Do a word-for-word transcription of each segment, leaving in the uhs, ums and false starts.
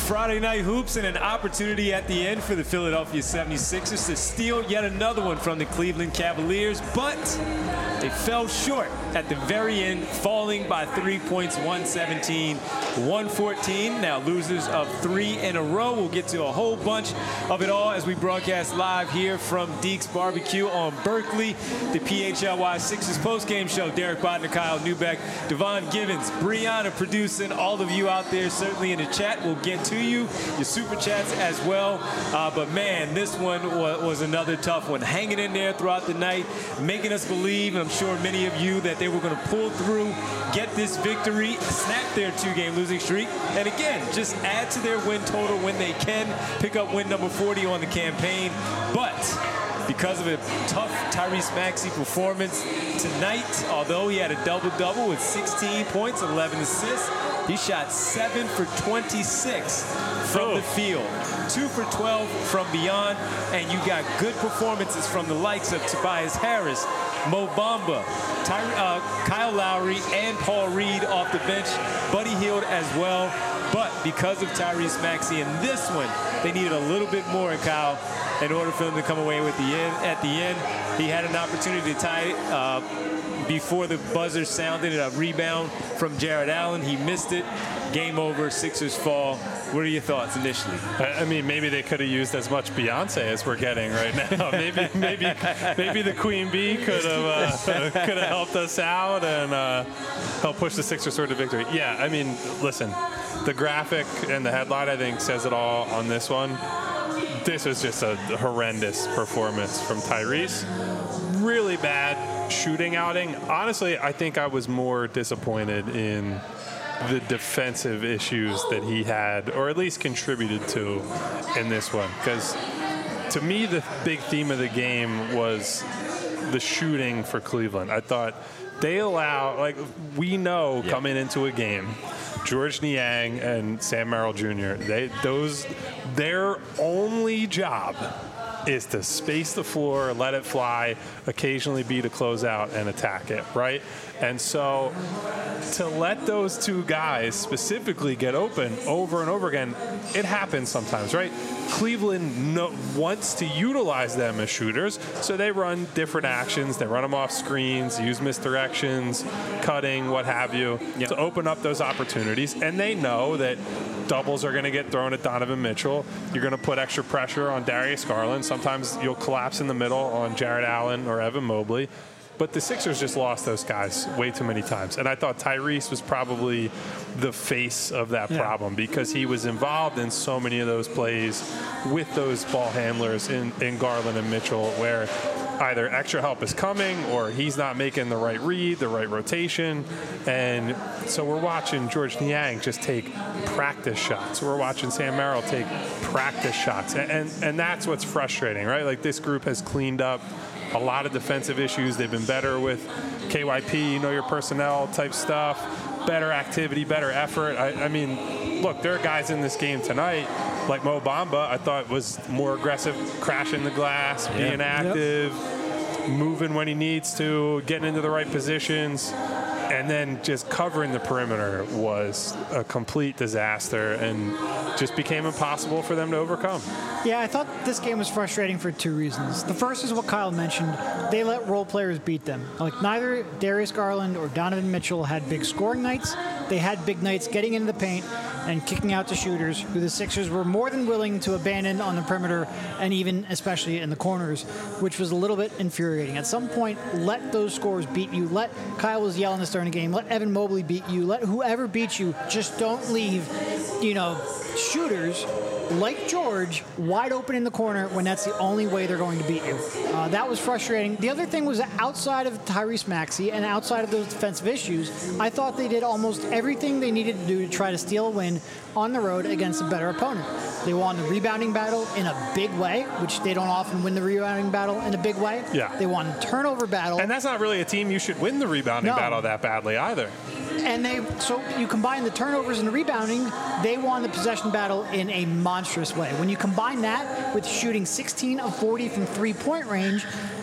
Friday Night Hoops, and an opportunity at the end for the Philadelphia seventy-sixers to steal yet another one from the Cleveland Cavaliers, but they fell short at the very end, falling by three points, one seventeen, one fourteen. Now losers of three in a row. We'll get to a whole bunch of it all as we broadcast live here from Deeks Barbecue on Berkeley, the P H L Y Sixers postgame show. Derek Bodner, Kyle Newbeck, Devon Givens, Brianna producing, all of you out there certainly in the chat. We'll get to you, your super chats as well. Uh, but man, this one was, was another tough one. Hanging in there throughout the night, making us believe, and I'm sure many of you, that they were going to pull through, get this victory, snap their two-game losing streak, and again, just add to their win total when they can, pick up win number forty on the campaign. But because of a tough Tyrese Maxey performance tonight, although he had a double-double with sixteen points, eleven assists, he shot seven for twenty-six from the field, two for twelve from beyond, and you got good performances from the likes of Tobias Harris, Mo Bamba, Ty, uh, Kyle Lowry, and Paul Reed off the bench, Buddy Hield as well. But because of Tyrese Maxey in this one, they needed a little bit more, Kyle, in order for them to come away with the end. At the end, he had an opportunity to tie it uh, before the buzzer sounded. A rebound from Jared Allen. He missed it. Game over. Sixers fall. What are your thoughts initially? I mean, maybe they could have used as much Beyonce as we're getting right now. maybe, maybe, maybe the Queen Bee could have uh, could have helped us out and uh, help push the Sixers toward the victory. Yeah, I mean, listen, the graphic and the headline, I think, says it all on this one. This was just a horrendous performance from Tyrese. Really bad shooting outing. Honestly, I think I was more disappointed in the defensive issues that he had, or at least contributed to in this one. Because to me, the big theme of the game was the shooting for Cleveland. I thought they allow, like we know yeah. coming into a game, George Niang and Sam Merrill Junior, they those their only job is to space the floor, let it fly, occasionally beat a closeout and attack it, right? And so to let those two guys specifically get open over and over again, it happens sometimes, right? Cleveland no, wants to utilize them as shooters, so they run different actions. They run them off screens, use misdirections, cutting, what have you, yep. to open up those opportunities. And they know that doubles are going to get thrown at Donovan Mitchell. You're going to put extra pressure on Darius Garland. Sometimes you'll collapse in the middle on Jared Allen or Evan Mobley. But the Sixers just lost those guys way too many times. And I thought Tyrese was probably the face of that yeah. problem because he was involved in so many of those plays with those ball handlers in, in Garland and Mitchell where either extra help is coming or he's not making the right read, the right rotation. And so we're watching George Niang just take practice shots. We're watching Sam Merrill take practice shots. And, and, and that's what's frustrating, right? Like this group has cleaned up a lot of defensive issues. They've been better with K Y P, know your personnel type stuff, better activity, better effort. I, I mean, look, there are guys in this game tonight, like Mo Bamba, I thought was more aggressive, crashing the glass, yeah. being active, yep. moving when he needs to, getting into the right positions. And then just covering the perimeter was a complete disaster and just became impossible for them to overcome. Yeah, I thought this game was frustrating for two reasons. The first is what Kyle mentioned. They let role players beat them. Like neither Darius Garland or Donovan Mitchell had big scoring nights. They had big nights getting into the paint and kicking out to shooters, who the Sixers were more than willing to abandon on the perimeter and even especially in the corners, which was a little bit infuriating. At some point, let those scorers beat you. Let Kyle was yelling this during the game. Let Evan Mobley beat you. Let whoever beats you. Just don't leave, you know, shooters like George wide open in the corner when that's the only way they're going to beat you. Uh, that was frustrating. The other thing was outside of Tyrese Maxey and outside of those defensive issues, I thought they did almost everything they needed to do to try to steal a win on the road against a better opponent. They won the rebounding battle in a big way, which they don't often win the rebounding battle in a big way. Yeah. They won the turnover battle. And that's not really a team you should win the rebounding no. battle that badly either. And they, so you combine the turnovers and the rebounding, they won the possession battle in a monstrous way. When you combine that with shooting sixteen of forty from three-point range,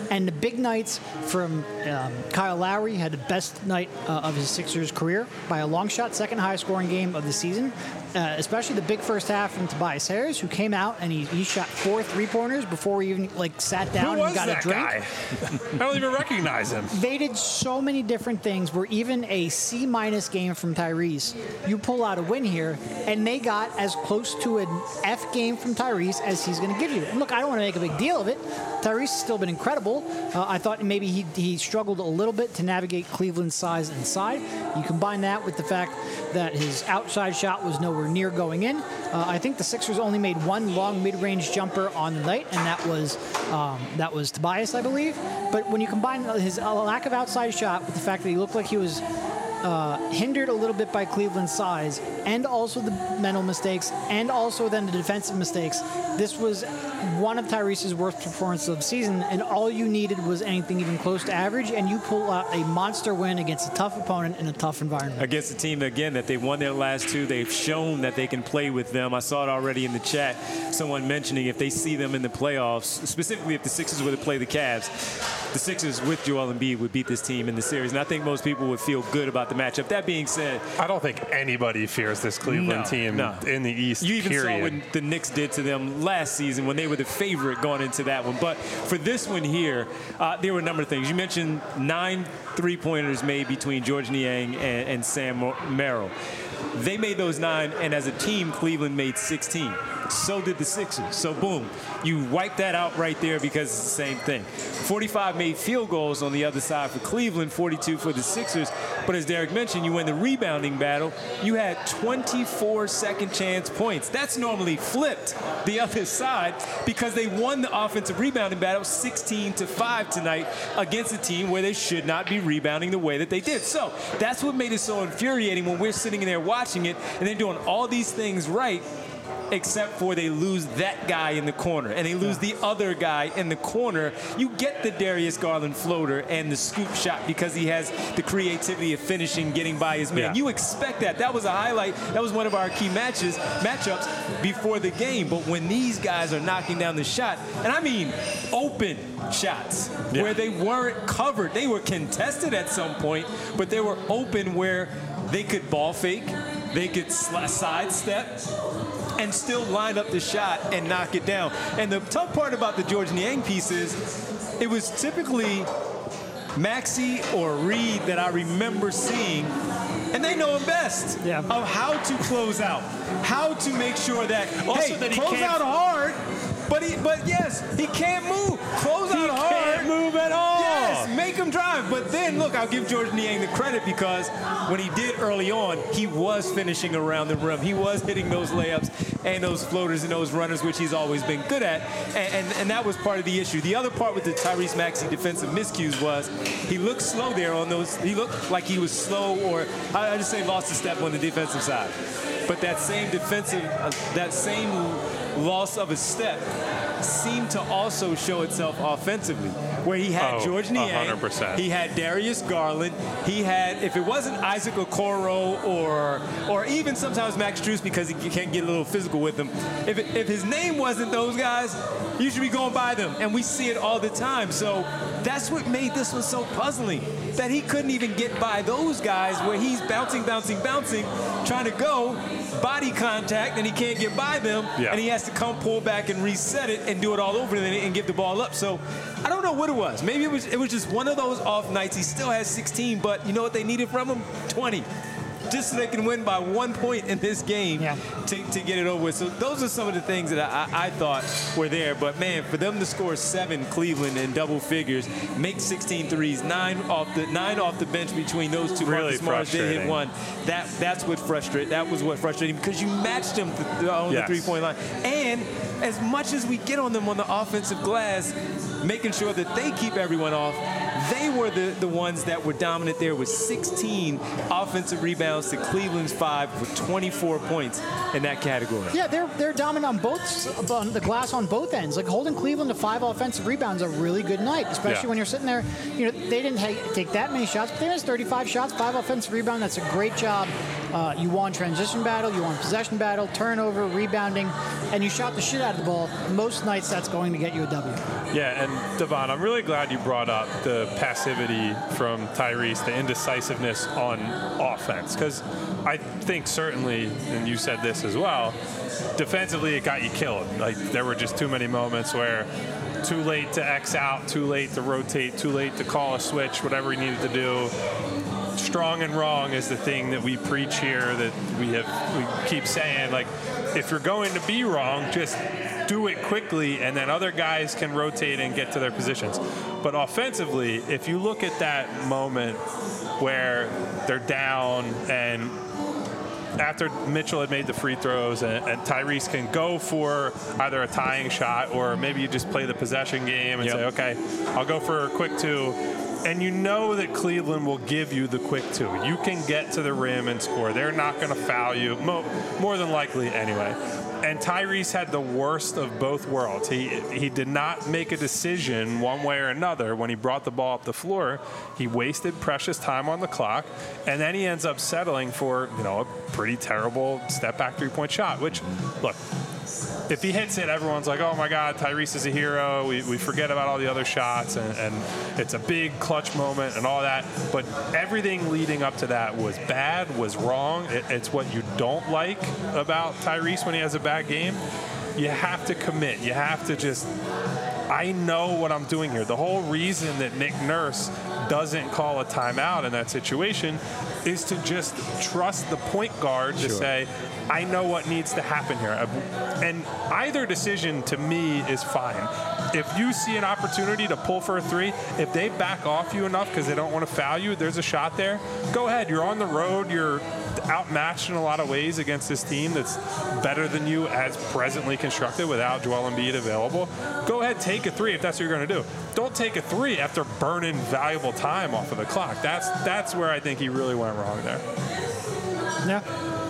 And the big nights from um, Kyle Lowry had the best night uh, of his Sixers career by a long shot, second highest scoring game of the season, uh, especially the big first half from Tobias Harris, who came out and he, he shot four three-pointers before he even like sat down Who was and got that a drink. guy? I don't even recognize him. They did so many different things where even a C-minus game from Tyrese, you pull out a win here, and they got as close to an F game from Tyrese as he's going to give you. And look, I don't want to make a big deal of it. Tyrese has still been incredible. Uh, I thought maybe he, he struggled a little bit to navigate Cleveland's size inside. You combine that with the fact that his outside shot was nowhere near going in. Uh, I think the Sixers only made one long mid-range jumper on the night, and that was um, that was Tobias, I believe. But when you combine his uh, lack of outside shot with the fact that he looked like he was uh, hindered a little bit by Cleveland's size, and also the mental mistakes, and also then the defensive mistakes, this was one of Tyrese's worst performances of the season, and all you needed was anything even close to average, and you pull out a monster win against a tough opponent in a tough environment. Against a team, again, that they've won their last two. They've shown that they can play with them. I saw it already in the chat, someone mentioning if they see them in the playoffs, specifically if the Sixers were to play the Cavs, the Sixers with Joel Embiid would beat this team in the series. And I think most people would feel good about the matchup. That being said, I don't think anybody fears this Cleveland no, team no. in the East, You even period. saw what the Knicks did to them last season when they were the favorite going into that one. But for this one here, uh, there were a number of things. You mentioned nine three-pointers made between George Niang and, and Sam Merrill. They made those nine, and as a team, Cleveland made sixteen. So did the Sixers. So, boom, you wipe that out right there because it's the same thing. forty-five made field goals on the other side for Cleveland, forty-two for the Sixers. But as Derek mentioned, you win the rebounding battle. You had twenty-four second chance points. That's normally flipped the other side because they won the offensive rebounding battle sixteen to five tonight against a team where they should not be rebounding the way that they did. So that's what made it so infuriating when we're sitting there watching it and they're doing all these things right, except for they lose that guy in the corner and they lose the other guy in the corner. You get the Darius Garland floater and the scoop shot because he has the creativity of finishing, getting by his man. Yeah. You expect that. That was a highlight. That was one of our key matches, matchups before the game. But when these guys are knocking down the shot, and I mean open shots, yeah. where they weren't covered. They were contested at some point, but they were open where they could ball fake, they could sidestep, and still line up the shot and knock it down. And the tough part about the George Niang piece is it was typically Maxey or Reed that I remember seeing, and they know him best, yeah. of how to close out, how to make sure that, Also hey, that he close can't- out hard, but he, but yes, he can't move. Close He out hard. can't move at all. Yes, make him drive. But then, look, I'll give George Niang the credit because when he did early on, he was finishing around the rim. He was hitting those layups and those floaters and those runners, which he's always been good at. And, and, and that was part of the issue. The other part with the Tyrese Maxey defensive miscues was he looked slow there on those. He looked like he was slow, or I I just say lost a step on the defensive side. But that same defensive, uh, that same loss of a step seemed to also show itself offensively, where he had Oh, George Niang, one hundred percent. he had Darius Garland, he had, if it wasn't Isaac Okoro or or even sometimes Max Strus because he can't get a little physical with him, if, it, if his name wasn't those guys, you should be going by them, and we see it all the time. So that's what made this one so puzzling, that he couldn't even get by those guys where he's bouncing, bouncing, bouncing, trying to go, body contact, and he can't get by them, Yeah. and he has to come pull back and reset it and do it all over again and give the ball up. So I don't know what it was. Maybe it was it was just one of those off nights. He still has sixteen, but you know what they needed from him? twenty. Just so they can win by one point in this game Yeah. to, to get it over with. So those are some of the things that I, I thought were there. But, man, for them to score seven, Cleveland, in double figures, make sixteen threes, nine off the nine off the bench between those two. Really Marcus Morris did hit frustrating. one. That, that's what frustrated. That was what frustrated him because you matched them th- on Yes. the three-point line. And as much as we get on them on the offensive glass, making sure that they keep everyone off, they were the, the ones that were dominant there with sixteen offensive rebounds to Cleveland's five for twenty-four points in that category. Yeah, they're they're dominant on both on the glass on both ends. Like holding Cleveland to five offensive rebounds is a really good night, especially Yeah. when you're sitting there. You know, they didn't ha- take that many shots, but they missed thirty-five shots, five offensive rebounds. That's a great job. Uh, you won transition battle, you won possession battle, turnover, rebounding, and you shot the shit out of the ball. Most nights, that's going to get you a W. Yeah, and Devon, I'm really glad you brought up the passivity from Tyrese, the indecisiveness on offense, because I think certainly, and you said this as well, defensively it got you killed. Like there were just too many moments where too late to X out, too late to rotate, too late to call a switch, whatever he needed to do. Strong and wrong is the thing that we preach here, that we have we keep saying, like, if you're going to be wrong, just do it quickly and then other guys can rotate and get to their positions. But offensively, if you look at that moment where they're down and after Mitchell had made the free throws and, and Tyrese can go for either a tying shot or maybe you just play the possession game and Yep. say, okay, I'll go for a quick two. And you know that Cleveland will give you the quick two. You can get to the rim and score. They're not going to foul you, mo- more than likely anyway. And Tyrese had the worst of both worlds. He he did not make a decision one way or another when he brought the ball up the floor. He wasted precious time on the clock, and then he ends up settling for, you know, a pretty terrible step-back three-point shot, which, look, if he hits it, everyone's like, oh, my God, Tyrese is a hero. We, we forget about all the other shots, and, and it's a big clutch moment and all that. But everything leading up to that was bad, was wrong. It, it's what you don't like about Tyrese when he has a bad game. You have to commit. You have to just, I know what I'm doing here. The whole reason that Nick Nurse doesn't call a timeout in that situation is to just trust the point guard to Sure. say, I know what needs to happen here. And either decision to me is fine. If you see an opportunity to pull for a three, if they back off you enough because they don't want to foul you, there's a shot there, go ahead. You're on the road. You're outmatched in a lot of ways against this team that's better than you as presently constructed without Joel Embiid available. Go ahead, take a three if that's what you're going to do. Don't take a three after burning valuable time off of the clock. That's that's where I think he really went wrong there. Yeah.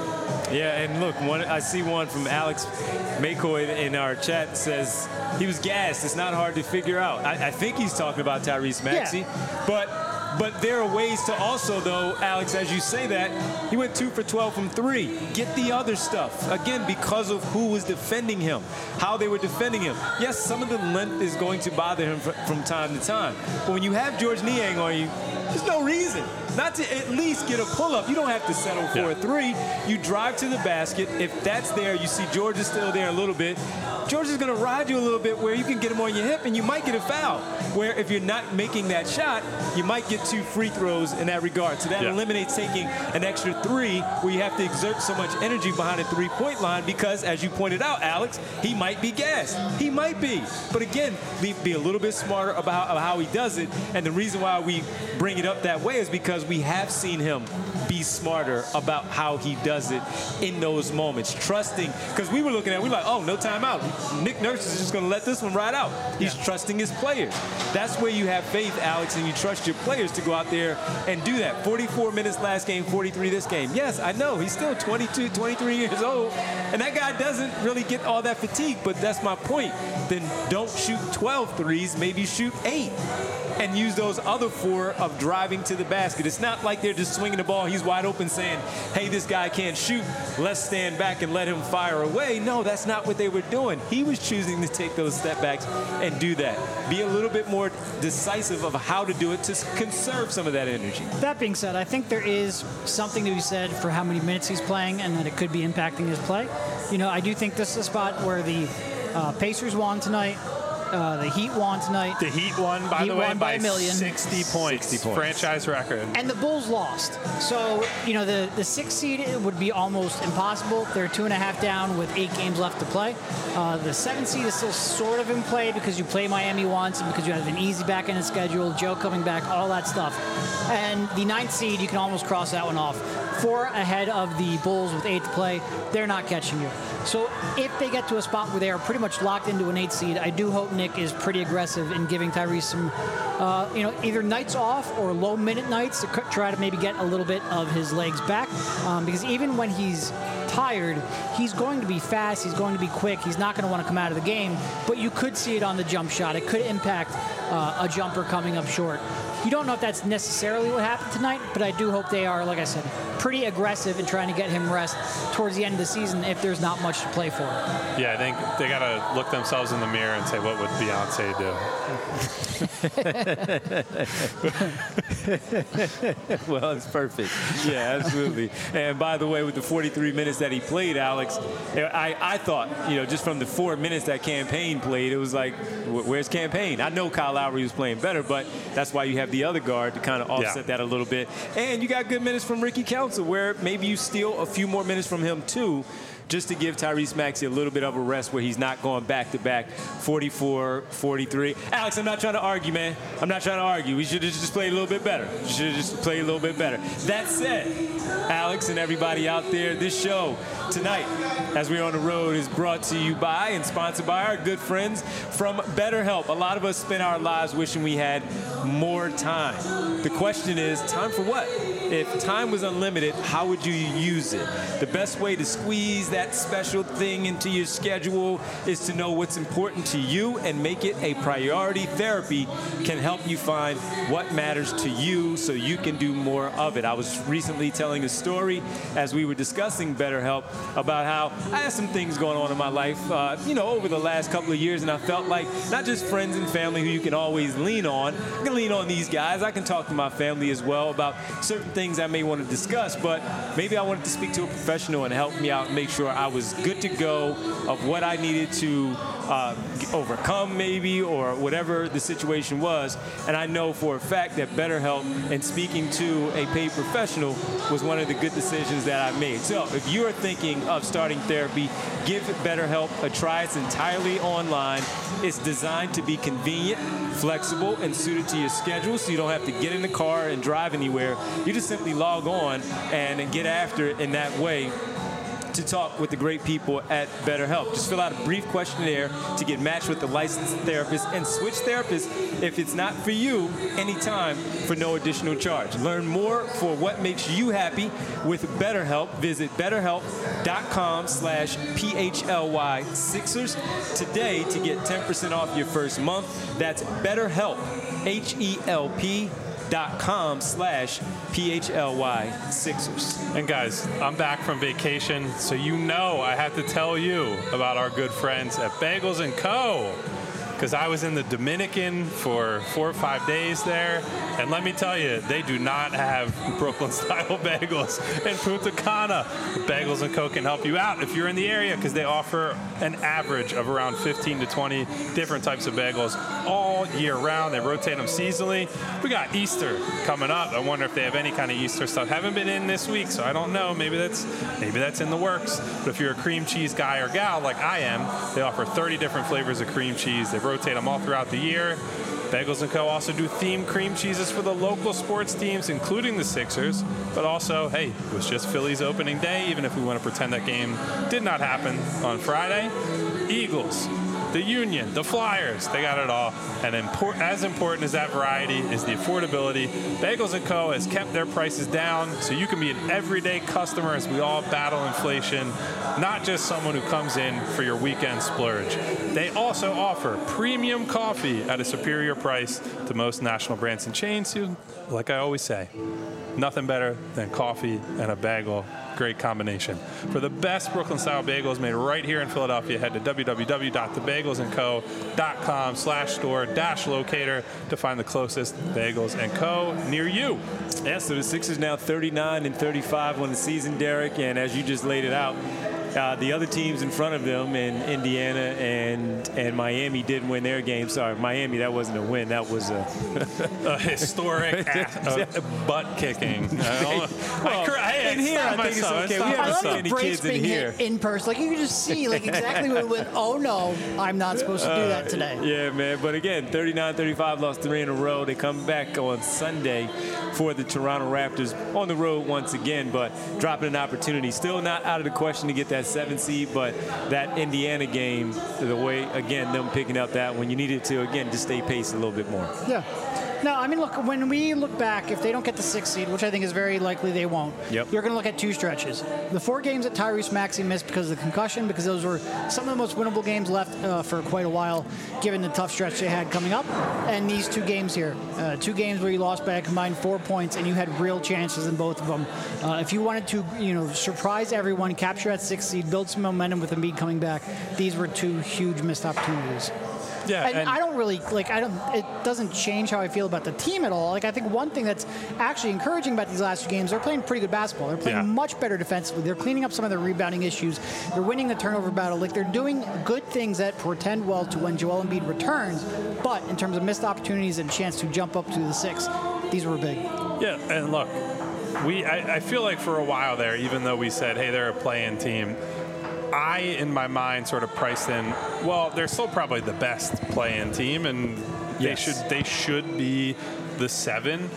Yeah, and look, one, I see one from Alex McCoy in our chat says he was gassed. It's not hard to figure out. I, I think he's talking about Tyrese Maxey, Yeah. but but there are ways to also, though, Alex, as you say that, he went two for twelve from three. Get the other stuff. Again, because of who was defending him, how they were defending him. Yes, some of the length is going to bother him fr- from time to time. But when you have George Niang on you, there's no reason not to at least get a pull-up. You don't have to settle for Yeah. a three. You drive to the basket. If that's there, you see George is still there a little bit. George is going to ride you a little bit where you can get him on your hip and you might get a foul. Where if you're not making that shot, you might get two free throws in that regard. So that Yeah. eliminates taking an extra three where you have to exert so much energy behind a three-point line because, as you pointed out, Alex, he might be gassed. He might be. But again, be, be a little bit smarter about, about how he does it. And the reason why we bring it up that way is because we have seen him be smarter about how he does it in those moments. Trusting, because we were looking at it, we were like, oh, no timeout. Nick Nurse is just going to let this one ride out. He's Yeah. trusting his players. That's where you have faith, Alex, and you trust your players to go out there and do that. forty-four minutes last game, forty-three this game. Yes, I know. He's still twenty-two, twenty-three years old, and that guy doesn't really get all that fatigue, but that's my point. Then don't shoot twelve threes, maybe shoot eight. And use those other four of driving to the basket. It's not like they're just swinging the ball. He's wide open saying, hey, this guy can't shoot. Let's stand back and let him fire away. No, that's not what they were doing. He was choosing to take those step backs and do that. Be a little bit more decisive of how to do it to conserve some of that energy. That being said, I think there is something to be said for how many minutes he's playing and that it could be impacting his play. You know, I do think this is a spot where the uh, Pacers won tonight. Uh, the Heat won tonight. The Heat won, by Heat the way, won by by a million. sixty points. sixty points. Franchise record. And the Bulls lost. So, you know, the, the sixth seed would be almost impossible. They're two and a half down with eight games left to play. Uh, the seventh seed is still sort of in play because you play Miami once and because you have an easy back end schedule, Joe coming back, all that stuff. And the ninth seed, you can almost cross that one off. Four ahead of the Bulls with eight to play. They're not catching you. So if they get to a spot where they are pretty much locked into an eight seed, I do hope Nick is pretty aggressive in giving Tyrese some, uh, you know, either nights off or low minute nights to try to maybe get a little bit of his legs back. Um, because even when he's tired, he's going to be fast, he's going to be quick, he's not going to want to come out of the game, but you could see it on the jump shot. It could impact uh, a jumper coming up short. You don't know if that's necessarily what happened tonight, but I do hope they are, like I said, pretty aggressive in trying to get him rest towards the end of the season if there's not much to play for. Yeah, I think they got to look themselves in the mirror and say, what would Beyonce do? Well, it's perfect. Yeah, absolutely. And by the way, with the forty-three minutes that he played, Alex, I, I thought, you know, just from the four minutes that Campaign played, it was like, where's Campaign? I know Kyle Lowry was playing better, but that's why you have the other guard to kind of offset yeah. that a little bit. And you got good minutes from Ricky Council, where maybe you steal a few more minutes from him too, just to give Tyrese Maxey a little bit of a rest where he's not going back-to-back forty-four, forty-three. Alex, I'm not trying to argue, man. I'm not trying to argue. We should have just played a little bit better. We should have just played a little bit better. That said, Alex and everybody out there, this show tonight, as we're on the road, is brought to you by and sponsored by our good friends from BetterHelp. A lot of us spend our lives wishing we had more time. The question is, time for what? If time was unlimited, how would you use it? The best way to squeeze that special thing into your schedule is to know what's important to you and make it a priority. Therapy can help you find what matters to you so you can do more of it. I was recently telling a story as we were discussing BetterHelp about how I had some things going on in my life, uh, you know, over the last couple of years, and I felt like not just friends and family who you can always lean on. I can lean on these guys. I can talk to my family as well about certain things I may want to discuss, but maybe I wanted to speak to a professional and help me out and make sure I was good to go of what I needed to uh, overcome maybe, or whatever the situation was. And I know for a fact that BetterHelp and speaking to a paid professional was one of the good decisions that I made. So if you are thinking of starting therapy, give BetterHelp a try. It's entirely online. It's designed to be convenient, flexible, and suited to your schedule, so you don't have to get in the car and drive anywhere. You just simply log on and get after it in that way to talk with the great people at BetterHelp. Just fill out a brief questionnaire to get matched with the licensed therapist and switch therapists if it's not for you anytime for no additional charge. Learn more for what makes you happy with BetterHelp. Visit betterhelp.com slash PHLY Sixers today to get ten percent off your first month. That's BetterHelp, H E L P dot com slash P H L Y Sixers. And guys, I'm back from vacation, so you know I have to tell you about our good friends at Bagels and Co. Because I was in the Dominican for four or five days there, and let me tell you, they do not have Brooklyn-style bagels in Punta Cana. Bagels and Co. can help you out if you're in the area, because they offer an average of around fifteen to twenty different types of bagels all year round. They rotate them seasonally. We got Easter coming up. I wonder if they have any kind of Easter stuff. Haven't been in this week, so I don't know. Maybe that's maybe that's in the works. But if you're a cream cheese guy or gal like I am, they offer thirty different flavors of cream cheese. They rotate them all throughout the year. Bagels and Co. also do themed cream cheeses for the local sports teams, including the Sixers. But also, hey, it was just Phillies opening day, even if we want to pretend that game did not happen on Friday. Eagles, the Union, the Flyers, they got it all. And import, as important as that variety is the affordability. Bagels and Co. has kept their prices down so you can be an everyday customer as we all battle inflation, not just someone who comes in for your weekend splurge. They also offer premium coffee at a superior price to most national brands and chains. Like I always say, nothing better than coffee and a bagel. Great combination. For the best Brooklyn-style bagels made right here in Philadelphia, head to www.thebagelsandco.com slash store dash locator to find the closest Bagels and Co. near you. Yeah, so the Sixers now thirty-nine and thirty-five on the season, Derek, and as you just laid it out, Uh, the other teams in front of them in Indiana and and Miami didn't win their game. Sorry, Miami, that wasn't a win. That was a, a historic ass, uh, butt kicking. I, well, I, I, in here, I think it's myself. okay. It's We not haven't I seen love any the kids brakes in being here. hit in person. Like you can just see like exactly what it went. Oh no, I'm not supposed to do that today. Yeah, man. But again, thirty-nine thirty-five, lost three in a row. They come back on Sunday for the Toronto Raptors on the road once again, but dropping an opportunity. Still not out of the question to get that seven seed, but that Indiana game, the way, again, them picking up that one, you needed to, again, just stay pace a little bit more. Yeah. No, I mean, look, when we look back, if they don't get the sixth seed, which I think is very likely they won't, Yep. you're going to look at two stretches. The four games that Tyrese Maxey missed because of the concussion, because those were some of the most winnable games left uh, for quite a while, given the tough stretch they had coming up. And these two games here, uh, two games where you lost by a combined four points, and you had real chances in both of them. Uh, if you wanted to, you know, surprise everyone, capture that sixth seed, build some momentum with Embiid coming back, these were two huge missed opportunities. Yeah, And, and I don't really like. I don't. It doesn't change how I feel about the team at all. Like I think one thing that's actually encouraging about these last two games, they're playing pretty good basketball. They're playing Yeah. much better defensively. They're cleaning up some of their rebounding issues. They're winning the turnover battle. Like they're doing good things that portend well to when Joel Embiid returns. But in terms of missed opportunities and chance to jump up to the six, these were big. Yeah, and look, we I, I feel like for a while there, even though we said, hey, they're a play-in team, I, in my mind, sort of priced in, well, they're still probably the best play-in team, and they Yes. should they should be the seven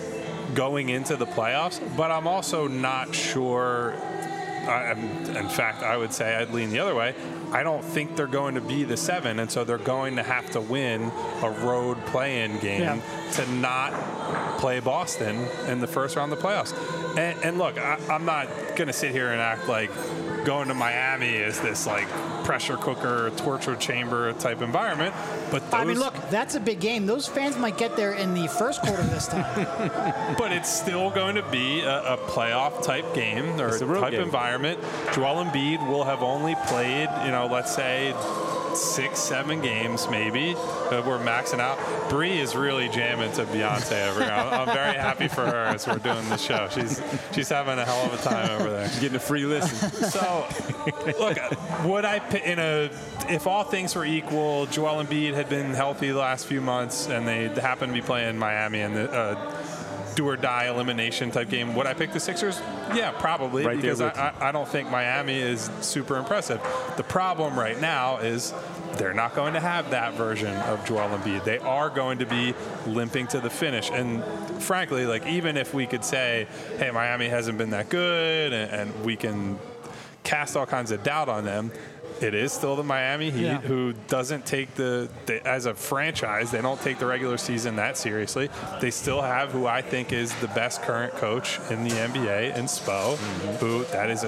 going into the playoffs. But I'm also not sure. I, I'm- in fact, I would say I'd lean the other way. I don't think they're going to be the seven, and so they're going to have to win a road play-in game Yeah. to not play Boston in the first round of the playoffs. And, and look, I, I'm not going to sit here and act like going to Miami is this like pressure cooker, torture chamber type environment. But those, I mean, look, that's a big game. Those fans might get there in the first quarter this time. but it's still going to be a, a playoff type game or It's a road type game. environment. Joel Embiid will have only played, you know, let's say six, seven games maybe. Uh, we're maxing out. Bree is really jamming to Beyonce over here. I'm, I'm very happy for her as we're doing the show. She's she's having a hell of a time over there. Getting a free listen. So, look, would I pi- in a if all things were equal, Joel Embiid had been healthy the last few months, and they happen to be playing Miami in the uh, do or die elimination type game, would I pick the Sixers? Yeah, probably, Right there because I, with you. I, I don't think Miami is super impressive. The problem right now is they're not going to have that version of Joel Embiid. They are going to be limping to the finish. And frankly, like even if we could say, hey, Miami hasn't been that good, and, and we can cast all kinds of doubt on them, it is still the Miami Heat, Yeah. who doesn't take the, the, as a franchise, they don't take the regular season that seriously. They still have who I think is the best current coach in the N B A in Spo, who that is a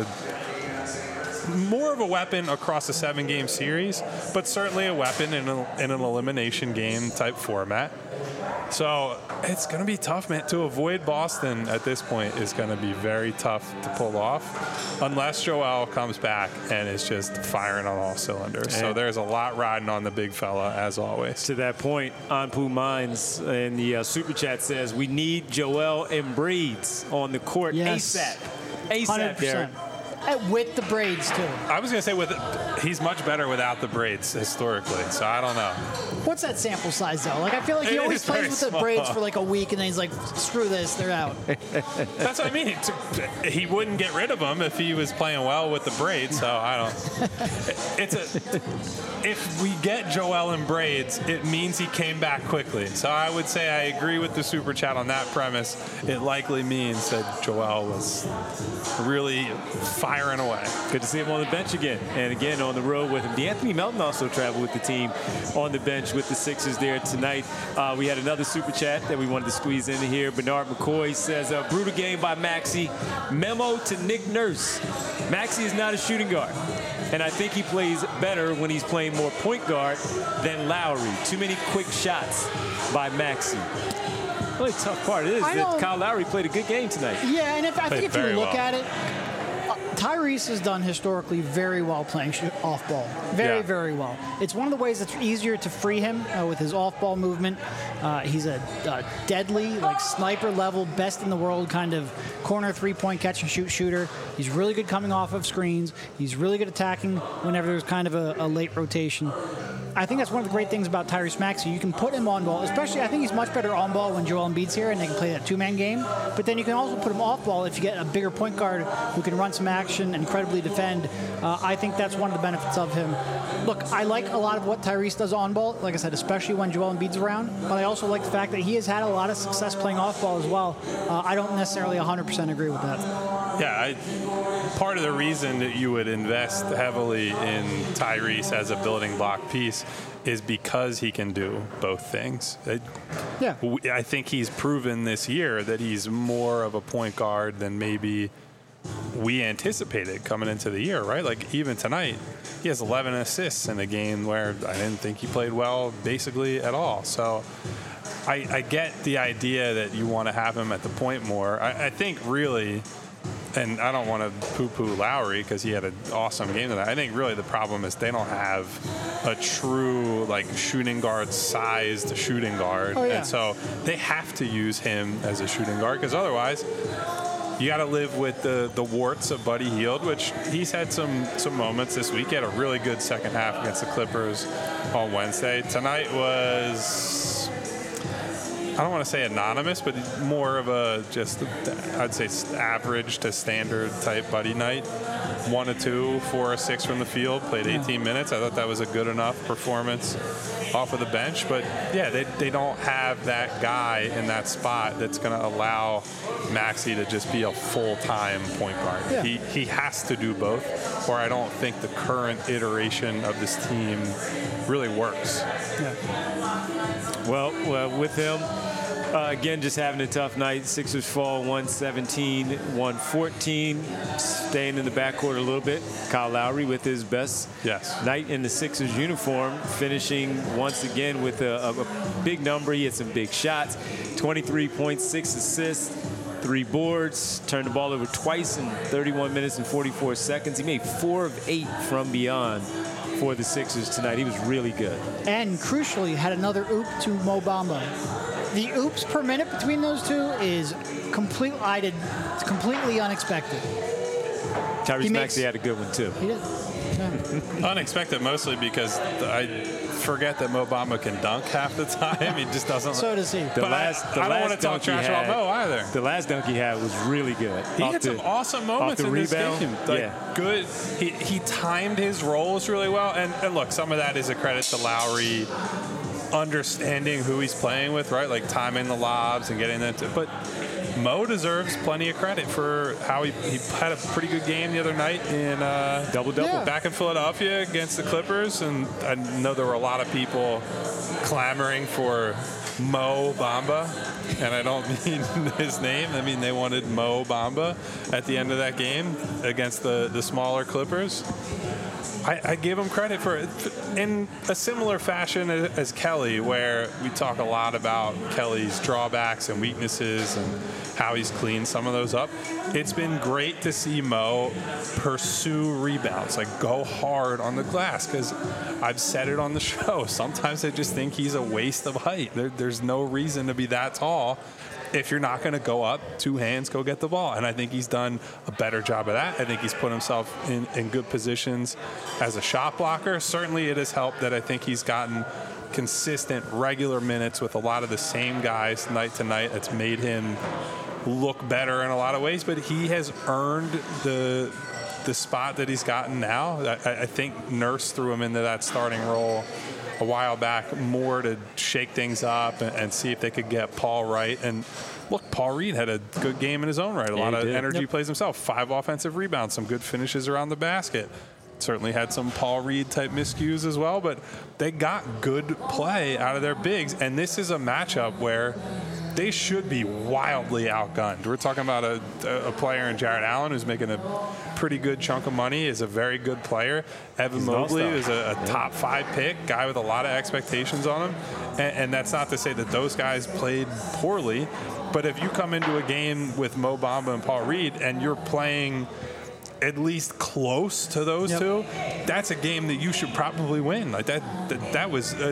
more of a weapon across a seven-game series, but certainly a weapon in, a, in an elimination game type format. So it's going to be tough, man. To avoid Boston at this point is going to be very tough to pull off, unless Joel comes back and is just firing on all cylinders. So And- there's a lot riding on the big fella, as always. To that point, Anpu Mines in the uh, super chat says we need Joel Embiid on the court Yes. ASAP. one ASAP, hundred Derek. percent. And with the braids, too. I was going to say with he's much better without the braids historically, so I don't know. What's that sample size, though? Like, I feel like he It always is plays very with the small. braids for like a week, and then he's like, screw this, they're out. That's what I mean. It's- He wouldn't get rid of them if he was playing well with the braids. So I don't. It's a. If we get Joel in braids, it means he came back quickly. So I would say I agree with the super chat on that premise. It likely means that Joel was really firing away. Good to see him on the bench again, and again on the road with him. DeAnthony Melton also traveled with the team on the bench with the Sixers there tonight. Uh, we had another super chat that we wanted to squeeze in here. Bernard McCoy says, uh, brutal game by Maxey. Memo to Nick Nurse. Maxey is not a shooting guard, and I think he plays better when he's playing more point guard than Lowry. Too many quick shots by Maxey. The only tough part is I that don't- Kyle Lowry played a good game tonight. Yeah, and if I Played think if you very look well. at it, uh, Tyrese has done historically very well playing sh- off ball. Very, Yeah. very well. It's one of the ways that's easier to free him uh, with his off ball movement. Uh, he's a, a deadly, like sniper level, best in the world kind of corner three point catch and shoot shooter. He's really good coming off of screens. He's really good attacking whenever there's kind of a, a late rotation. I think that's one of the great things about Tyrese Maxey. You can put him on ball, especially I think he's much better on ball when Joel Embiid's here and they can play that two-man game. But then you can also put him off ball if you get a bigger point guard who can run some action and credibly defend. Uh, I think that's one of the benefits of him. Look, I like a lot of what Tyrese does on ball, like I said, especially when Joel Embiid's around. But I also like the fact that he has had a lot of success playing off ball as well. Uh, I don't necessarily one hundred percent agree with that. Yeah, I, part of the reason that you would invest heavily in Tyrese as a building block piece is because he can do both things. It, yeah. I think he's proven this year that he's more of a point guard than maybe we anticipated coming into the year, right? Like even tonight, he has eleven assists in a game where I didn't think he played well basically at all. So I, I get the idea that you want to have him at the point more. I, I think really, and I don't want to poo-poo Lowry because he had an awesome game tonight. I think really the problem is they don't have a true like shooting guard sized shooting guard. Oh, yeah. And so they have to use him as a shooting guard because otherwise you got to live with the, the warts of Buddy Hield, which he's had some, some moments this week. He had a really good second half against the Clippers on Wednesday. Tonight was, I don't want to say anonymous, but more of a just, I'd say average to standard type Buddy night. One to two, four or six from the field, played eighteen minutes. I thought that was a good enough performance off of the bench. But yeah, they, they don't have that guy in that spot that's going to allow Maxey to just be a full-time point guard. Yeah. He, he has to do both, or I don't think the current iteration of this team really works. Yeah. Well, well with him, uh, again, just having a tough night. Sixers fall one seventeen, one fourteen. Staying in the backcourt a little bit. Kyle Lowry with his best yes. night in the Sixers uniform, finishing once again with a, a, a big number. He had some big shots. twenty-three point six assists, three boards, turned the ball over twice in thirty-one minutes and forty-four seconds. He made four of eight from beyond for the Sixers tonight. He was really good. And crucially, had another oop to Mo Bamba. The oops per minute between those two is complete, I did, completely unexpected. Tyrese Maxey had a good one, too. He did. Yeah. Unexpected mostly because I forget that Mo Bamba can dunk half the time. He just doesn't. So does he. The but last, I, the I don't last want to talk trash had, about Mo either. The last dunk he had was really good. He off had the, some awesome moments the in rebound. this game. Like, yeah. Good. He, he timed his roles really well. And, and look, some of that is a credit to Lowry understanding who he's playing with, right? Like timing the lobs and getting them to. But Mo deserves plenty of credit for how he, he had a pretty good game the other night in uh, double-double Yeah. back in Philadelphia against the Clippers. And I know there were a lot of people clamoring for Mo Bamba, and I don't mean his name. I mean they wanted Mo Bamba at the end of that game against the, the smaller Clippers. I, I give him credit for it in a similar fashion as, as Kelly, where we talk a lot about Kelly's drawbacks and weaknesses and how he's cleaned some of those up. It's been great to see Mo pursue rebounds, like go hard on the glass, because I've said it on the show. Sometimes I just think he's a waste of height. There, there's no reason to be that tall. If you're not going to go up, two hands, go get the ball. And I think he's done a better job of that. I think he's put himself in, in good positions as a shot blocker. Certainly it has helped that I think he's gotten consistent, regular minutes with a lot of the same guys night to night. That's made him look better in a lot of ways. But he has earned the the spot that he's gotten now. I, I think Nurse threw him into that starting role a while back more to shake things up and, and see if they could get Paul right. And look, Paul Reed had a good game in his own right. A yeah, lot of did. energy Yep. plays himself. Five offensive rebounds, some good finishes around the basket. Certainly had some Paul Reed type miscues as well, but they got good play out of their bigs. And this is a matchup where they should be wildly outgunned. We're talking about a, a player in Jarrett Allen who's making a pretty good chunk of money, is a very good player. Evan He's an Mobley all-star. is a, a Yeah. top five pick, guy with a lot of expectations on him. And, and that's not to say that those guys played poorly, but if you come into a game with Mo Bamba and Paul Reed and you're playing at least close to those Yep. two, that's a game that you should probably win. Like that, that, that was a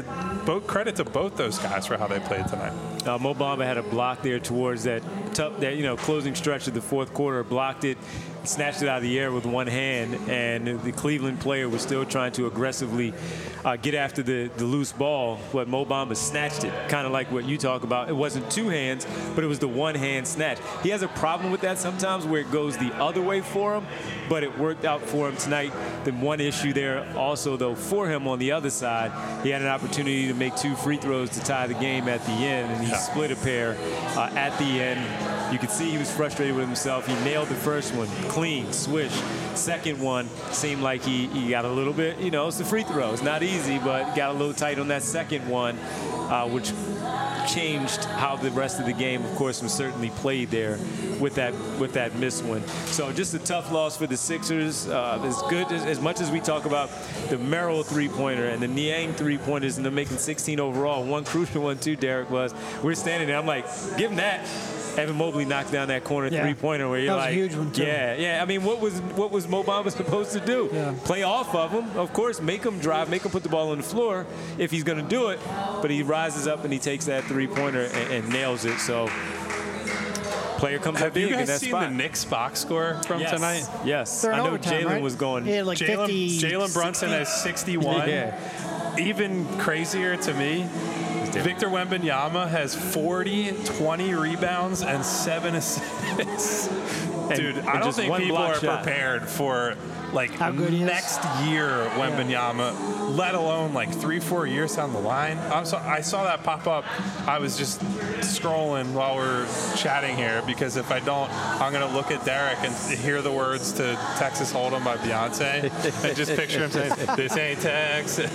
both credit to both those guys for how they played tonight. Uh, Mo Bamba had a block there towards that tough, that you know, closing stretch of the fourth quarter. Blocked it, snatched it out of the air with one hand, and the Cleveland player was still trying to aggressively uh, get after the, the loose ball. But Mo Bamba snatched it, kind of like what you talk about. It wasn't two hands, but it was the one hand snatch. He has a problem with that sometimes, where it goes the other way for him, but it worked out for him tonight. The one issue there also, though, for him on the other side, he had an opportunity to make two free throws to tie the game at the end, and he yeah. split a pair uh, at the end. You could see he was frustrated with himself. He nailed the first one, clean, swish. Second one seemed like he, he got a little bit, you know, it's the free throw. It's not easy, but got a little tight on that second one, uh, which changed how the rest of the game, of course, was certainly played there with that with that missed one. So just a tough loss for the Sixers. Uh, as good as, as much as we talk about the Merrill three-pointer and the Niang three-pointers, and they're making sixteen overall. One crucial one too, Derek, was we're standing there. I'm like, give him that. Evan Mobley knocked down that corner yeah. three-pointer where you're that was like, a huge one too. yeah, yeah. I mean, what was what was Mo Bamba supposed to do? Yeah. Play off of him, of course. Make him drive, make him put the ball on the floor if he's going to do it. But he rises up and he takes that three-pointer and, and nails it. So player comes Have up big you guys in that seen spot. the Knicks box score from yes. tonight? Yes, They're in I know overtime, Jalen right? was going. Yeah, like Jalen Jalen Brunson has sixty-one. Yeah. Even crazier to me, Victor Wembanyama has forty, twenty rebounds, and seven assists. Dude, and I don't just think one people block are shot. prepared for like How good he is. next year Wembanyama, let alone like three, four years down the line. I'm so, I saw that pop up. I was just scrolling while we're chatting here because if I don't, I'm going to look at Derek and hear the words to Texas Hold'em by Beyonce and just picture him saying, "This ain't Texas."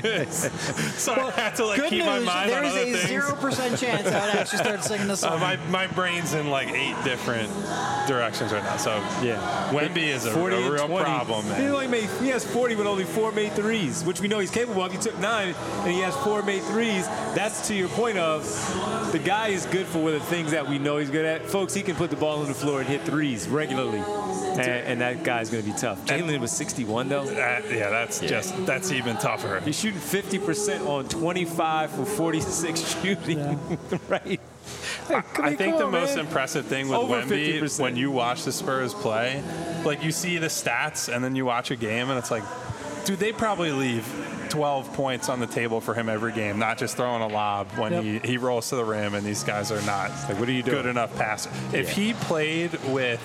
So Well, I have to like good keep news, my mind on there's other a things. zero percent chance I'd actually start singing this song. Uh, my, my brain's in like eight different directions right now. So Yeah. Wemby is a, a forty and real twenty. problem, He man. only made he has forty with only four made threes, which we know he's capable of. He took nine and he has four made threes. That's to your point of the guy is good for the things that we know he's good at. Folks, he can put the ball on the floor and hit threes regularly. And, and that guy's going to be tough. Jalen was sixty-one, though. Uh, yeah, that's Yeah. just, that's even tougher. He's shooting fifty percent on twenty-five for forty-six shooting, Yeah. right? I, I think come the on, most man. impressive thing with Over Wemby, fifty percent. when you watch the Spurs play, like you see the stats and then you watch a game and it's like, dude, they probably leave twelve points on the table for him every game, not just throwing a lob when Yep. he, he rolls to the rim and these guys are not Like, what are you doing? good enough passer. If Yeah. he played with,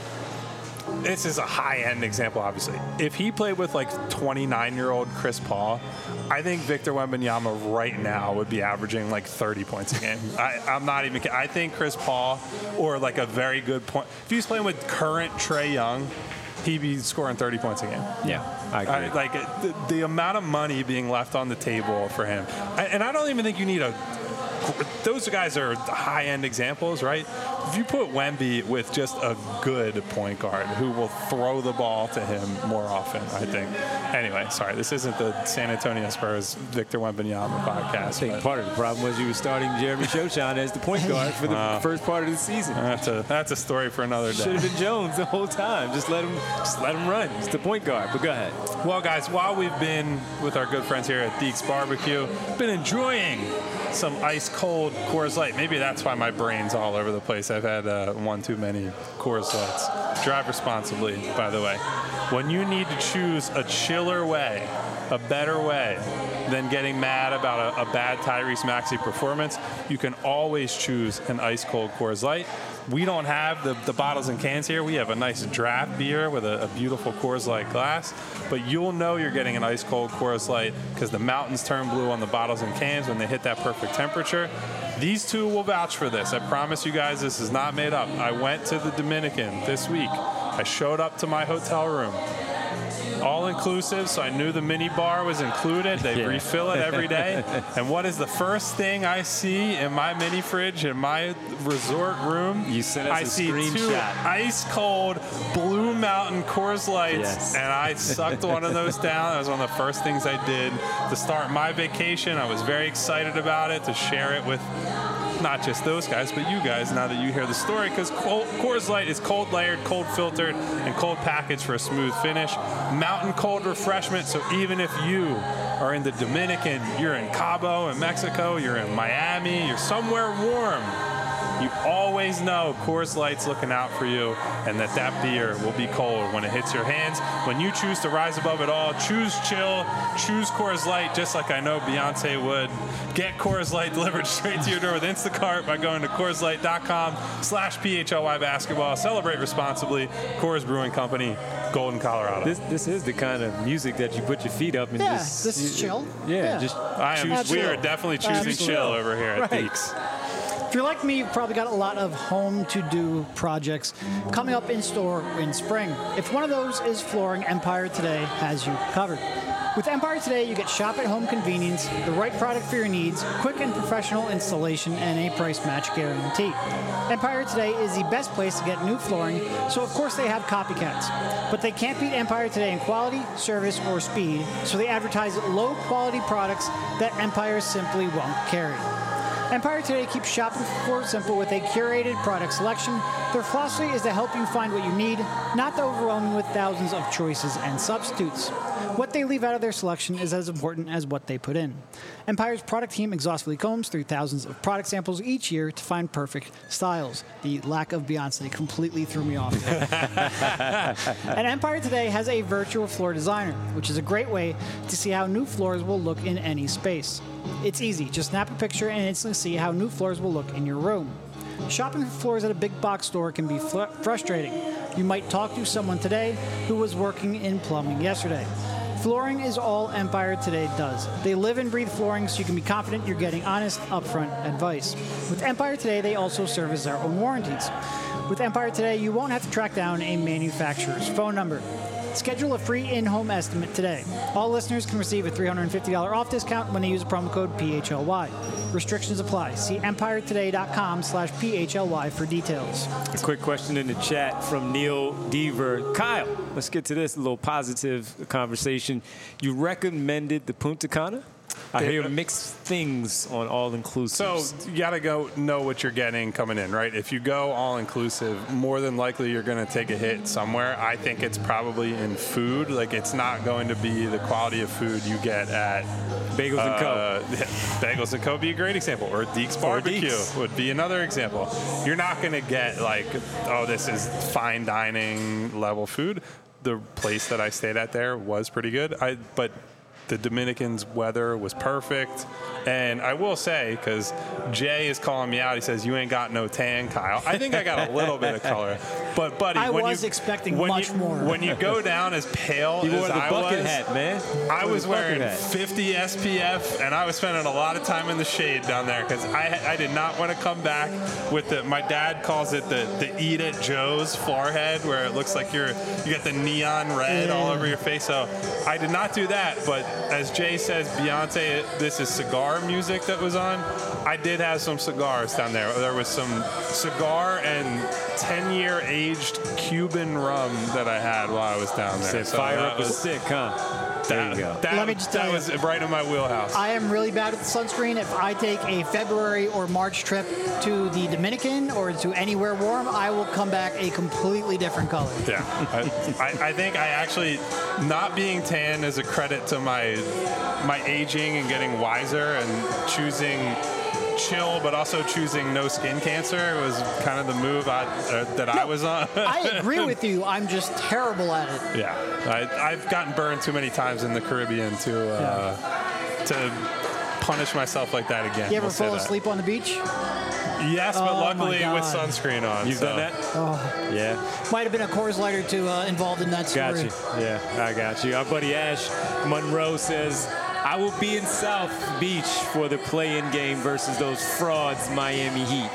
this is a high-end example, obviously. If he played with like twenty-nine-year-old Chris Paul, I think Victor Wembanyama right now would be averaging like thirty points a game. I, I'm not even kidding. I think Chris Paul, or like a very good point, if he was playing with current Trae Young, he'd be scoring thirty points a game. Yeah, I agree. I, like the, the amount of money being left on the table for him, I, and I don't even think you need a. Those guys are high-end examples, right? If you put Wemby with just a good point guard who will throw the ball to him more often, I think. Anyway, sorry, this isn't the San Antonio Spurs Victor Wembanyama podcast. I think but part of the problem was you were starting Jeremy Shoshine as the point guard for the Wow. first part of the season. That's a that's a story for another Should day. have been Jones the whole time. Just let him, just let him run. He's the point guard. But go ahead. Well, guys, while we've been with our good friends here at Deeks Barbecue, been enjoying some ice-cold Coors Light. Maybe that's why my brain's all over the place. I've had uh, one too many Coors Lights. Drive responsibly, by the way. When you need to choose a chiller way, a better way than getting mad about a, a bad Tyrese Maxey performance, you can always choose an ice-cold Coors Light. We don't have the, the bottles and cans here. We have a nice draft beer with a, a beautiful Coors Light glass. But you'll know you're getting an ice-cold Coors Light because the mountains turn blue on the bottles and cans when they hit that perfect temperature. These two will vouch for this. I promise you guys this is not made up. I went to the Dominican this week. I showed up to my hotel room. All-inclusive, so I knew the mini bar was included. They Yeah. refill it every day. And what is the first thing I see in my mini fridge in my resort room? You sent us I a see two screenshot. ice-cold Blue Mountain Coors Lights, Yes. and I sucked one of those down. That was one of the first things I did to start my vacation. I was very excited about it, to share it with not just those guys, but you guys, now that you hear the story, because Coors Light is cold layered, cold filtered, and cold packaged for a smooth finish. Mountain cold refreshment, so even if you are in the Dominican, you're in Cabo in Mexico, you're in Miami, you're somewhere warm, you always know Coors Light's looking out for you, and that that beer will be cold when it hits your hands. When you choose to rise above it all, choose chill, choose Coors Light, just like I know Beyonce would. Get Coors Light delivered straight to your door with Instacart by going to Coors Light dot com slash P H L Y basketball. Celebrate responsibly. Coors Brewing Company, Golden, Colorado. This this is the kind of music that you put your feet up and yeah, just... this is chill. Yeah, yeah. just I am, we are definitely choosing Absolutely. chill over here at Right. Deeks. If you're like me, you've probably got a lot of home to-do projects coming up in store in spring. If one of those is flooring, Empire Today has you covered. With Empire Today, you get shop-at-home convenience, the right product for your needs, quick and professional installation, and a price match guarantee. Empire Today is the best place to get new flooring, so of course they have copycats. But they can't beat Empire Today in quality, service, or speed, so they advertise low-quality products that Empire simply won't carry. Empire Today keeps shopping for floor simple with a curated product selection. Their philosophy is to help you find what you need, not to overwhelm you with thousands of choices and substitutes. What they leave out of their selection is as important as what they put in. Empire's product team exhaustively combs through thousands of product samples each year to find perfect styles. The lack of Beyonce completely threw me off. And Empire Today has a virtual floor designer, which is a great way to see how new floors will look in any space. It's easy. Just snap a picture and instantly see how new floors will look in your room. Shopping for floors at a big box store can be fl- frustrating. You might talk to someone today who was working in plumbing yesterday. Flooring is all Empire Today does. They live and breathe flooring, so you can be confident you're getting honest, upfront advice. With Empire Today, they also service their own warranties. With Empire Today, you won't have to track down a manufacturer's phone number. Schedule a free in-home estimate today. All listeners can receive a three hundred fifty dollars off discount when they use promo code P H L Y. Restrictions apply. See empire today dot com slash P H L Y for details. A quick question in the chat from Neil Deaver. Kyle, let's get to this little positive conversation. You recommended the Punta Cana? I hear mixed things on all-inclusive. So you got to go know what you're getting coming in, right? If you go all-inclusive, more than likely you're going to take a hit somewhere. I think it's probably in food. Like, it's not going to be the quality of food you get at Bagels uh, and Co. Bagels and Co. would be a great example. Or Deeks Barbecue Deeks. would be another example. You're not going to get like, oh, this is fine dining level food. The place that I stayed at there was pretty good. I but the Dominican's weather was perfect. And I will say, because Jay is calling me out, he says, you ain't got no tan, Kyle. I think I got a little bit of color. But, buddy, I when was you, expecting when much you, more. When you go down as pale You as wore the I bucket was, hat, man. I was the bucket wearing hat. fifty S P F, and I was spending a lot of time in the shade down there because I, I did not want to come back with the, my dad calls it the, the Eat It Joe's forehead, where it looks like you're, you got the neon red Yeah. all over your face. So I did not do that. But as Jay says, Beyonce, this is cigar music that was on. I did have some cigars down there. There was some cigar and ten-year aged Cuban rum that I had while I was down there. Said So fire that up a was- stick, huh? There That, you go. that, Let me just that tell you. was right in my wheelhouse. I am really bad at the sunscreen. If I take a February or March trip to the Dominican or to anywhere warm, I will come back a completely different color. Yeah, I, I, I think I actually, not being tan is a credit to my my aging and getting wiser and choosing chill, but also choosing no skin cancer was kind of the move I, uh, that I was on. I agree with you. I'm just terrible at it. Yeah, I, I've gotten burned too many times in the Caribbean to uh, to punish myself like that again. You ever We'll say fall that. asleep on the beach? Yes, but Oh, my luckily with God. sunscreen on. You've so. done that? Oh, Yeah. might have been a Coors Light or two uh, involved in that story. Got you. Yeah, I got you. Our buddy Ash Monroe says, I will be in South Beach for the play-in game versus those frauds Miami Heat.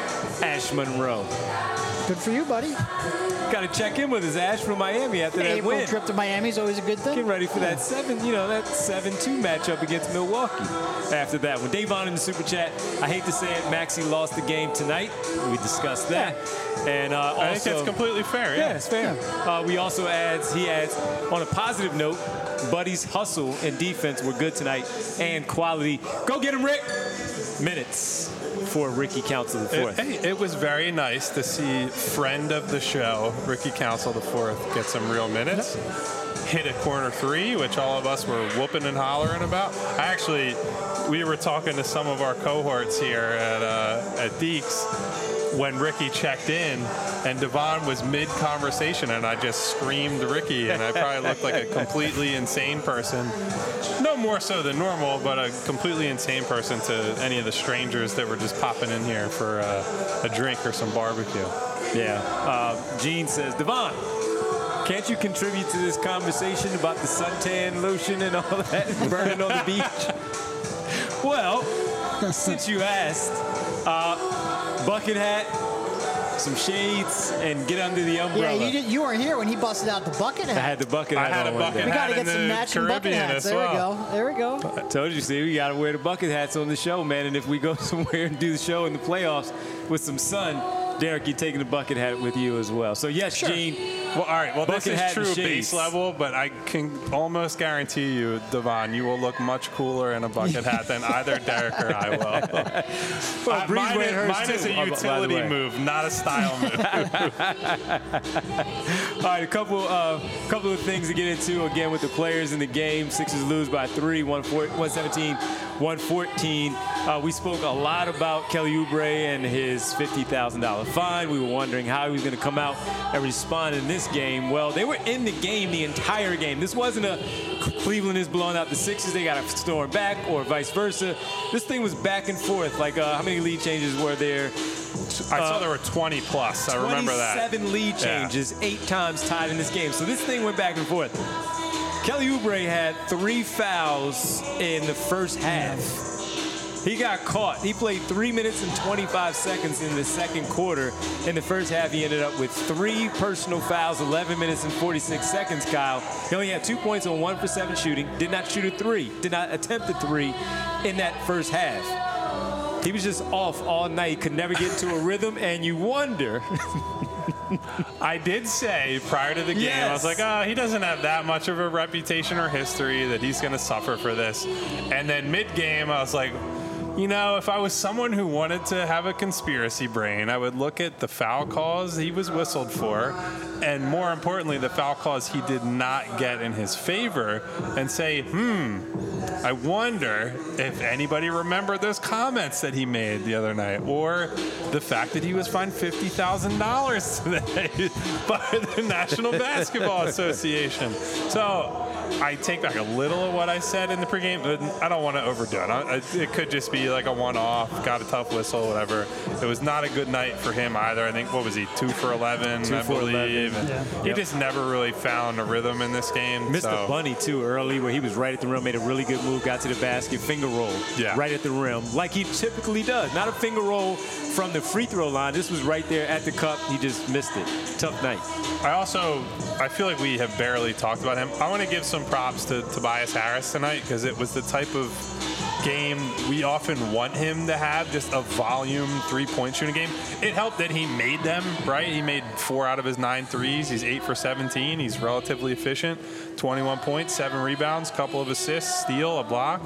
Ash Monroe. Good for you, buddy. Got to check in with us, Ash, from Miami after An that April win. trip to Miami is always a good thing. Getting ready for that seven, you know, that seven two matchup against Milwaukee. After that one, Davon in the super chat. I hate to say it, Maxey lost the game tonight. We discussed that, and uh, also, I think that's completely fair. yeah, Yeah. it's fair. Uh, we also adds he adds on a positive note, Buddy's hustle and defense were good tonight and quality. Go get him, Rick. Minutes before Ricky Council the fourth. It, hey, it was very nice to see friend of the show, Ricky Council the fourth, get some real minutes. Hit a corner three, which all of us were whooping and hollering about. I actually, we were talking to some of our cohorts here at uh, at Deeks when Ricky checked in, and Devon was mid-conversation, and I just screamed Ricky, and I probably looked like a completely insane person. No more so than normal, but a completely insane person to any of the strangers that were just popping in here for uh, a drink or some barbecue. Yeah. Uh, Gene says, Devon, can't you contribute to this conversation about the suntan lotion and all that burning on the beach? Well, since you asked, uh, bucket hat, some shades, and get under the umbrella. Yeah, you, did, you weren't here when he busted out the bucket hat. I had the bucket hat I had on a one bucket day. We got to hat get in some the matching bucket Caribbean hats. as There well. we go. There we go. I told you, see, we got to wear the bucket hats on the show, man. And if we go somewhere and do the show in the playoffs with some sun, Derek, you're taking the bucket hat with you as well. So, yes, Sure. Gene. Well, all right. Well, Bucket this hat is and true shades. base level, but I can almost guarantee you, Devon, you will look much cooler in a bucket hat than either Derek or I will. Well, Uh, Bree's mine wearing is, hers mine too, is a by the utility way. move, not a style move. All right, a couple, uh, couple of things to get into again with the players in the game. Sixers lose by three, one seventeen, one fourteen. Uh, we spoke a lot about Kelly Oubre and his fifty thousand dollars fine. We were wondering how he was going to come out and respond in this game. Well, they were in the game the entire game. This wasn't a Cleveland is blowing out the Sixers, they got to storm back, or vice versa. This thing was back and forth. Like, uh, how many lead changes were there? I saw there were twenty plus. I remember that. twenty-seven lead changes, yeah. eight times tied in this game. So this thing went back and forth. Kelly Oubre had three fouls in the first half. He got caught. He played three minutes and twenty-five seconds in the second quarter. In the first half, he ended up with three personal fouls, eleven minutes and forty-six seconds, Kyle. He only had two points on one for seven shooting, did not shoot a three, did not attempt a three in that first half. He was just off all night, could never get into a rhythm, and you wonder. I did say prior to the game, Yes. I was like, oh, he doesn't have that much of a reputation or history that he's going to suffer for this. And then mid-game, I was like, you know, if I was someone who wanted to have a conspiracy brain, I would look at the foul calls he was whistled for, and more importantly, the foul calls he did not get in his favor, and say, hmm, I wonder if anybody remembered those comments that he made the other night, or the fact that he was fined fifty thousand dollars today by the National Basketball Association. So I take back a little of what I said in the pregame, but I don't want to overdo it. I, it could just be like a one-off, got a tough whistle, whatever. It was not a good night for him either. I think, what was he, two for eleven, Two I for believe. eleven. Yeah. He Yep. just never really found a rhythm in this game. Missed so. a bunny, too, early, where he was right at the rim, made a really good move, got to the basket, finger roll, Yeah. right at the rim, like he typically does. Not a finger roll from the free throw line. This was right there at the cup. He just missed it. Tough night. I also, I feel like we have barely talked about him. I want to give some props to Tobias Harris tonight, because it was the type of game we often want him to have, just a volume three-point shooting game. It helped that he made them, right? He made four out of his nine threes. He's eight for seventeen. He's relatively efficient. twenty-one points, seven rebounds, couple of assists, steal, a block.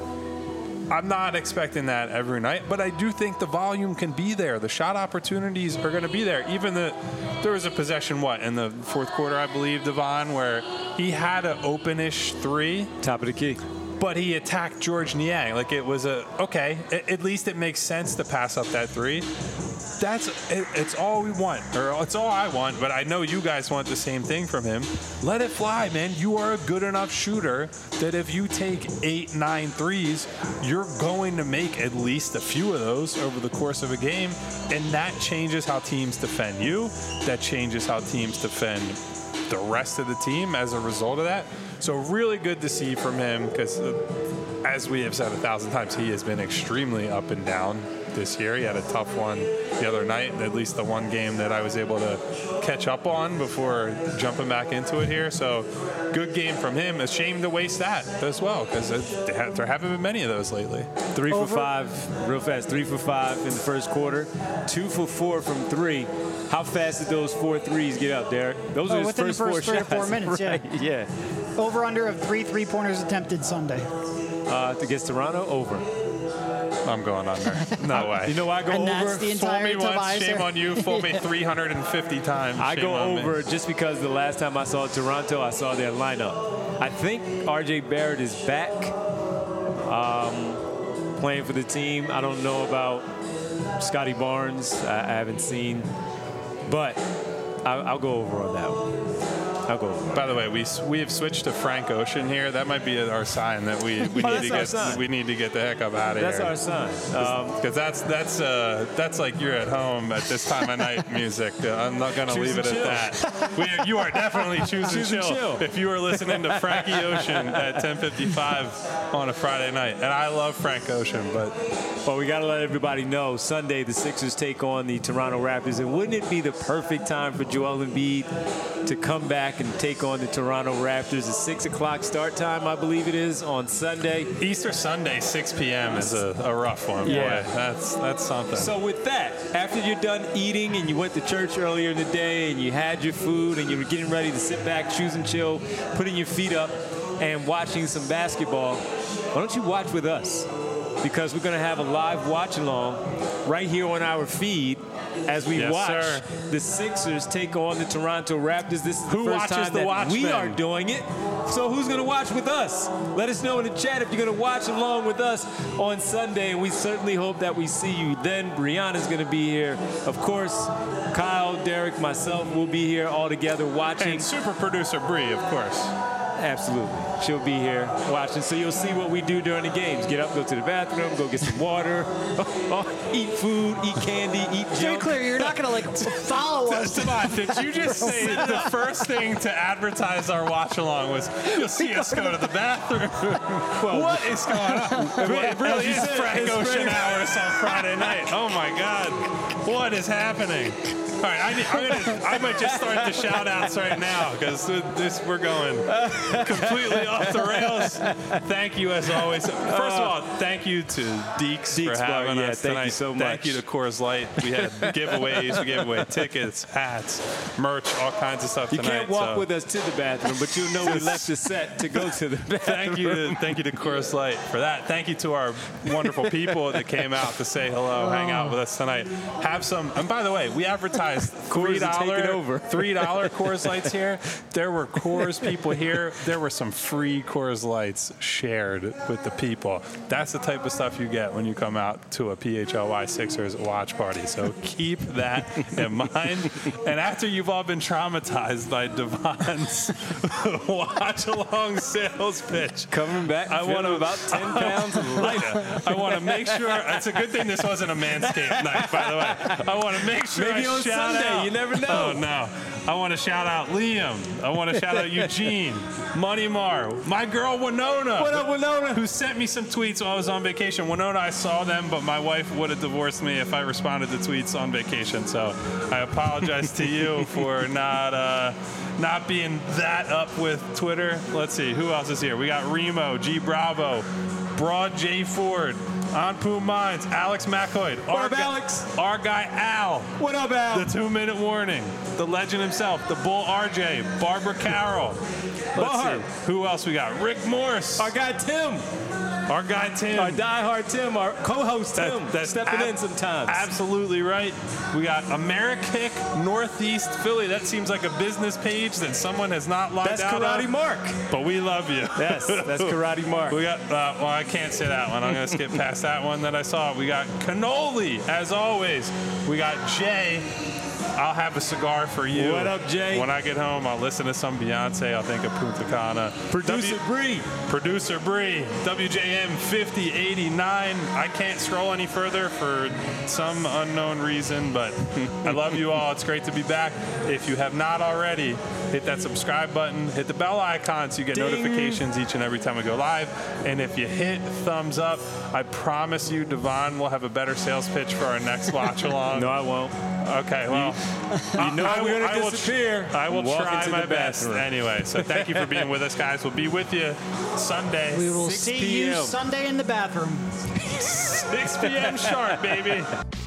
I'm not expecting that every night, but I do think the volume can be there. The shot opportunities are going to be there. Even the there was a possession, what, in the fourth quarter, I believe, Devon, where he had an open-ish three, Top of the key. but he attacked George Niang. Like, it was a, okay, a- at least it makes sense to pass up that three. That's it, it's all we want, or it's all I want, but I know you guys want the same thing from him. Let it fly, man. You are a good enough shooter that if you take eight, nine threes, you're going to make at least a few of those over the course of a game, and that changes how teams defend you. That changes how teams defend the rest of the team as a result of that. So really good to see from him, because uh, as we have said a thousand times, he has been extremely up and down this year. He had a tough one the other night, at least the one game that I was able to catch up on before jumping back into it here. So good game from him. A shame to waste that as well, because there haven't been many of those lately. Three Over. for five, real fast. Three for five in the first quarter. Two for four from three. How fast did those four threes get up, Derek? Those Oh, are his within the first, first four three or shots. four minutes, yeah. Right, yeah. Over under of three three-pointers attempted Sunday. Uh, against Toronto, over. I'm going under. No way. You know I go And over? that's the Fool entire me once, Tobias shame era. on you. Fool me three hundred fifty times. I shame go on me. over just because the last time I saw Toronto, I saw their lineup. I think R J Barrett is back um, playing for the team. I don't know about Scotty Barnes. I, I haven't seen. But I, I'll go over on that one. I'll go over. By the way, we we have switched to Frank Ocean here. That might be our sign that we, we Oh, need that's to our get sign. we need to get the heck up out of That's here. our sign. Um, Because that's that's uh, that's like you're at home at this time of night music. Uh, I'm not gonna Choose leave it and at that. We, you are definitely choosing Choose and chill, chill. if you are listening to Frankie Ocean at ten fifty-five on a Friday night. And I love Frank Ocean, but Well, we got to let everybody know, Sunday the Sixers take on the Toronto Raptors. And wouldn't it be the perfect time for Joel Embiid to come back and take on the Toronto Raptors? A six o'clock start time, I believe it is, on Sunday. Easter Sunday, six p.m. is a, a rough one. Yeah. Boy, that's that's something. So with that, after you're done eating and you went to church earlier in the day and you had your food and you were getting ready to sit back, choose and chill, putting your feet up and watching some basketball, why don't you watch with us? Because we're going to have a live watch along right here on our feed as we Yes, watch sir. the Sixers take on the Toronto Raptors. This is the Who first watches time the that Watchmen? we are doing it. So who's going to watch with us? Let us know in the chat if you're going to watch along with us on Sunday, and we certainly hope that we see you then. Brianna's going to be here. Of course, Kyle, Derek, myself will be here all together watching. And super producer Bree, of course. Absolutely. She'll be here watching. So you'll see what we do during the games. Get up, go to the bathroom, go get some water, eat food, eat candy, eat To be junk. clear, you're not going to like follow us. Tobias, did you just say that the first thing to advertise our watch along was you'll see us go to the bathroom? What is going on? It really as you is said, Frank it's Ocean Frank- hours on Friday night. Oh my God. What is happening? All right, I, need, I'm gonna, I might just start the shout outs right now because this we're going completely off the rails. Thank you as always. First of all, thank you to Deeks, Deeks for having Bar, yeah, us thank you tonight. so Thank much. you to Coors Light. We had giveaways, we gave away tickets, hats, merch, all kinds of stuff You tonight. can't walk so with us to the bathroom, but you'll know we left the set to go to the bathroom. Thank you, to, thank you to Coors Light for that. Thank you to our wonderful people that came out to say hello, hang out with us tonight. Have some, and by the way, we advertised three Coors are taking dollar over. three dollar Coors Lights here. There were Coors people here. There were some free Coors Lights shared with the people. That's the type of stuff you get when you come out to a P H L Y Sixers watch party. So keep that in mind. And after you've all been traumatized by Devon's watch along sales pitch, Coming back, I I wanna- want about ten pounds lighter. I want to make sure. It's a good thing this wasn't a Manscaped night, by the way. I want to make sure Maybe I on shout Sunday, out. you never know. Oh no! I want to shout out Liam. I want to shout out Eugene, Money Mar, my girl Winona. What up, Winona? Who sent me some tweets while I was on vacation. Winona, I saw them, but my wife would have divorced me if I responded to tweets on vacation. So I apologize to you for not uh, not being that up with Twitter. Let's see, who else is here? We got Remo, G Bravo, Broad J Ford, Anpu Mines, Alex McCoy. What up, Alex? Our guy Al. What up, Al? The two-minute warning. The legend himself, the Bull R J, Barbara Carroll. Barb. Who else we got? Rick Morse. Our guy Tim. Our guy Tim. Our diehard Tim, our co-host Tim, That- that's stepping ab- in sometimes. Absolutely right. We got Amerikick Northeast Philly. That seems like a business page that someone has not logged That's out Karate of. Mark. But we love you. Yes, that's Karate Mark. We got, uh, well, I can't say that one. I'm going to skip past that one that I saw. We got Cannoli, as always. We got Jay. I'll have a cigar for you. What up, Jay? When I get home, I'll listen to some Beyonce. I'll think of Punta Cana. Producer W- Bree. Producer Bree, W J M fifty eighty-nine. I can't scroll any further for some unknown reason, but I love you all. It's great to be back. If you have not already, hit that subscribe button, hit the bell icon so you get Ding. notifications each and every time we go live. And if you hit thumbs up, I promise you, Devon will have a better sales pitch for our next watch along. No, I won't. Okay, well, You know I, we're I gonna will, disappear. I will Walk try into my the best bathroom. anyway. So thank you for being with us, guys. We'll be with you Sunday, We will six see p m you Sunday in the bathroom. six p.m. sharp, baby.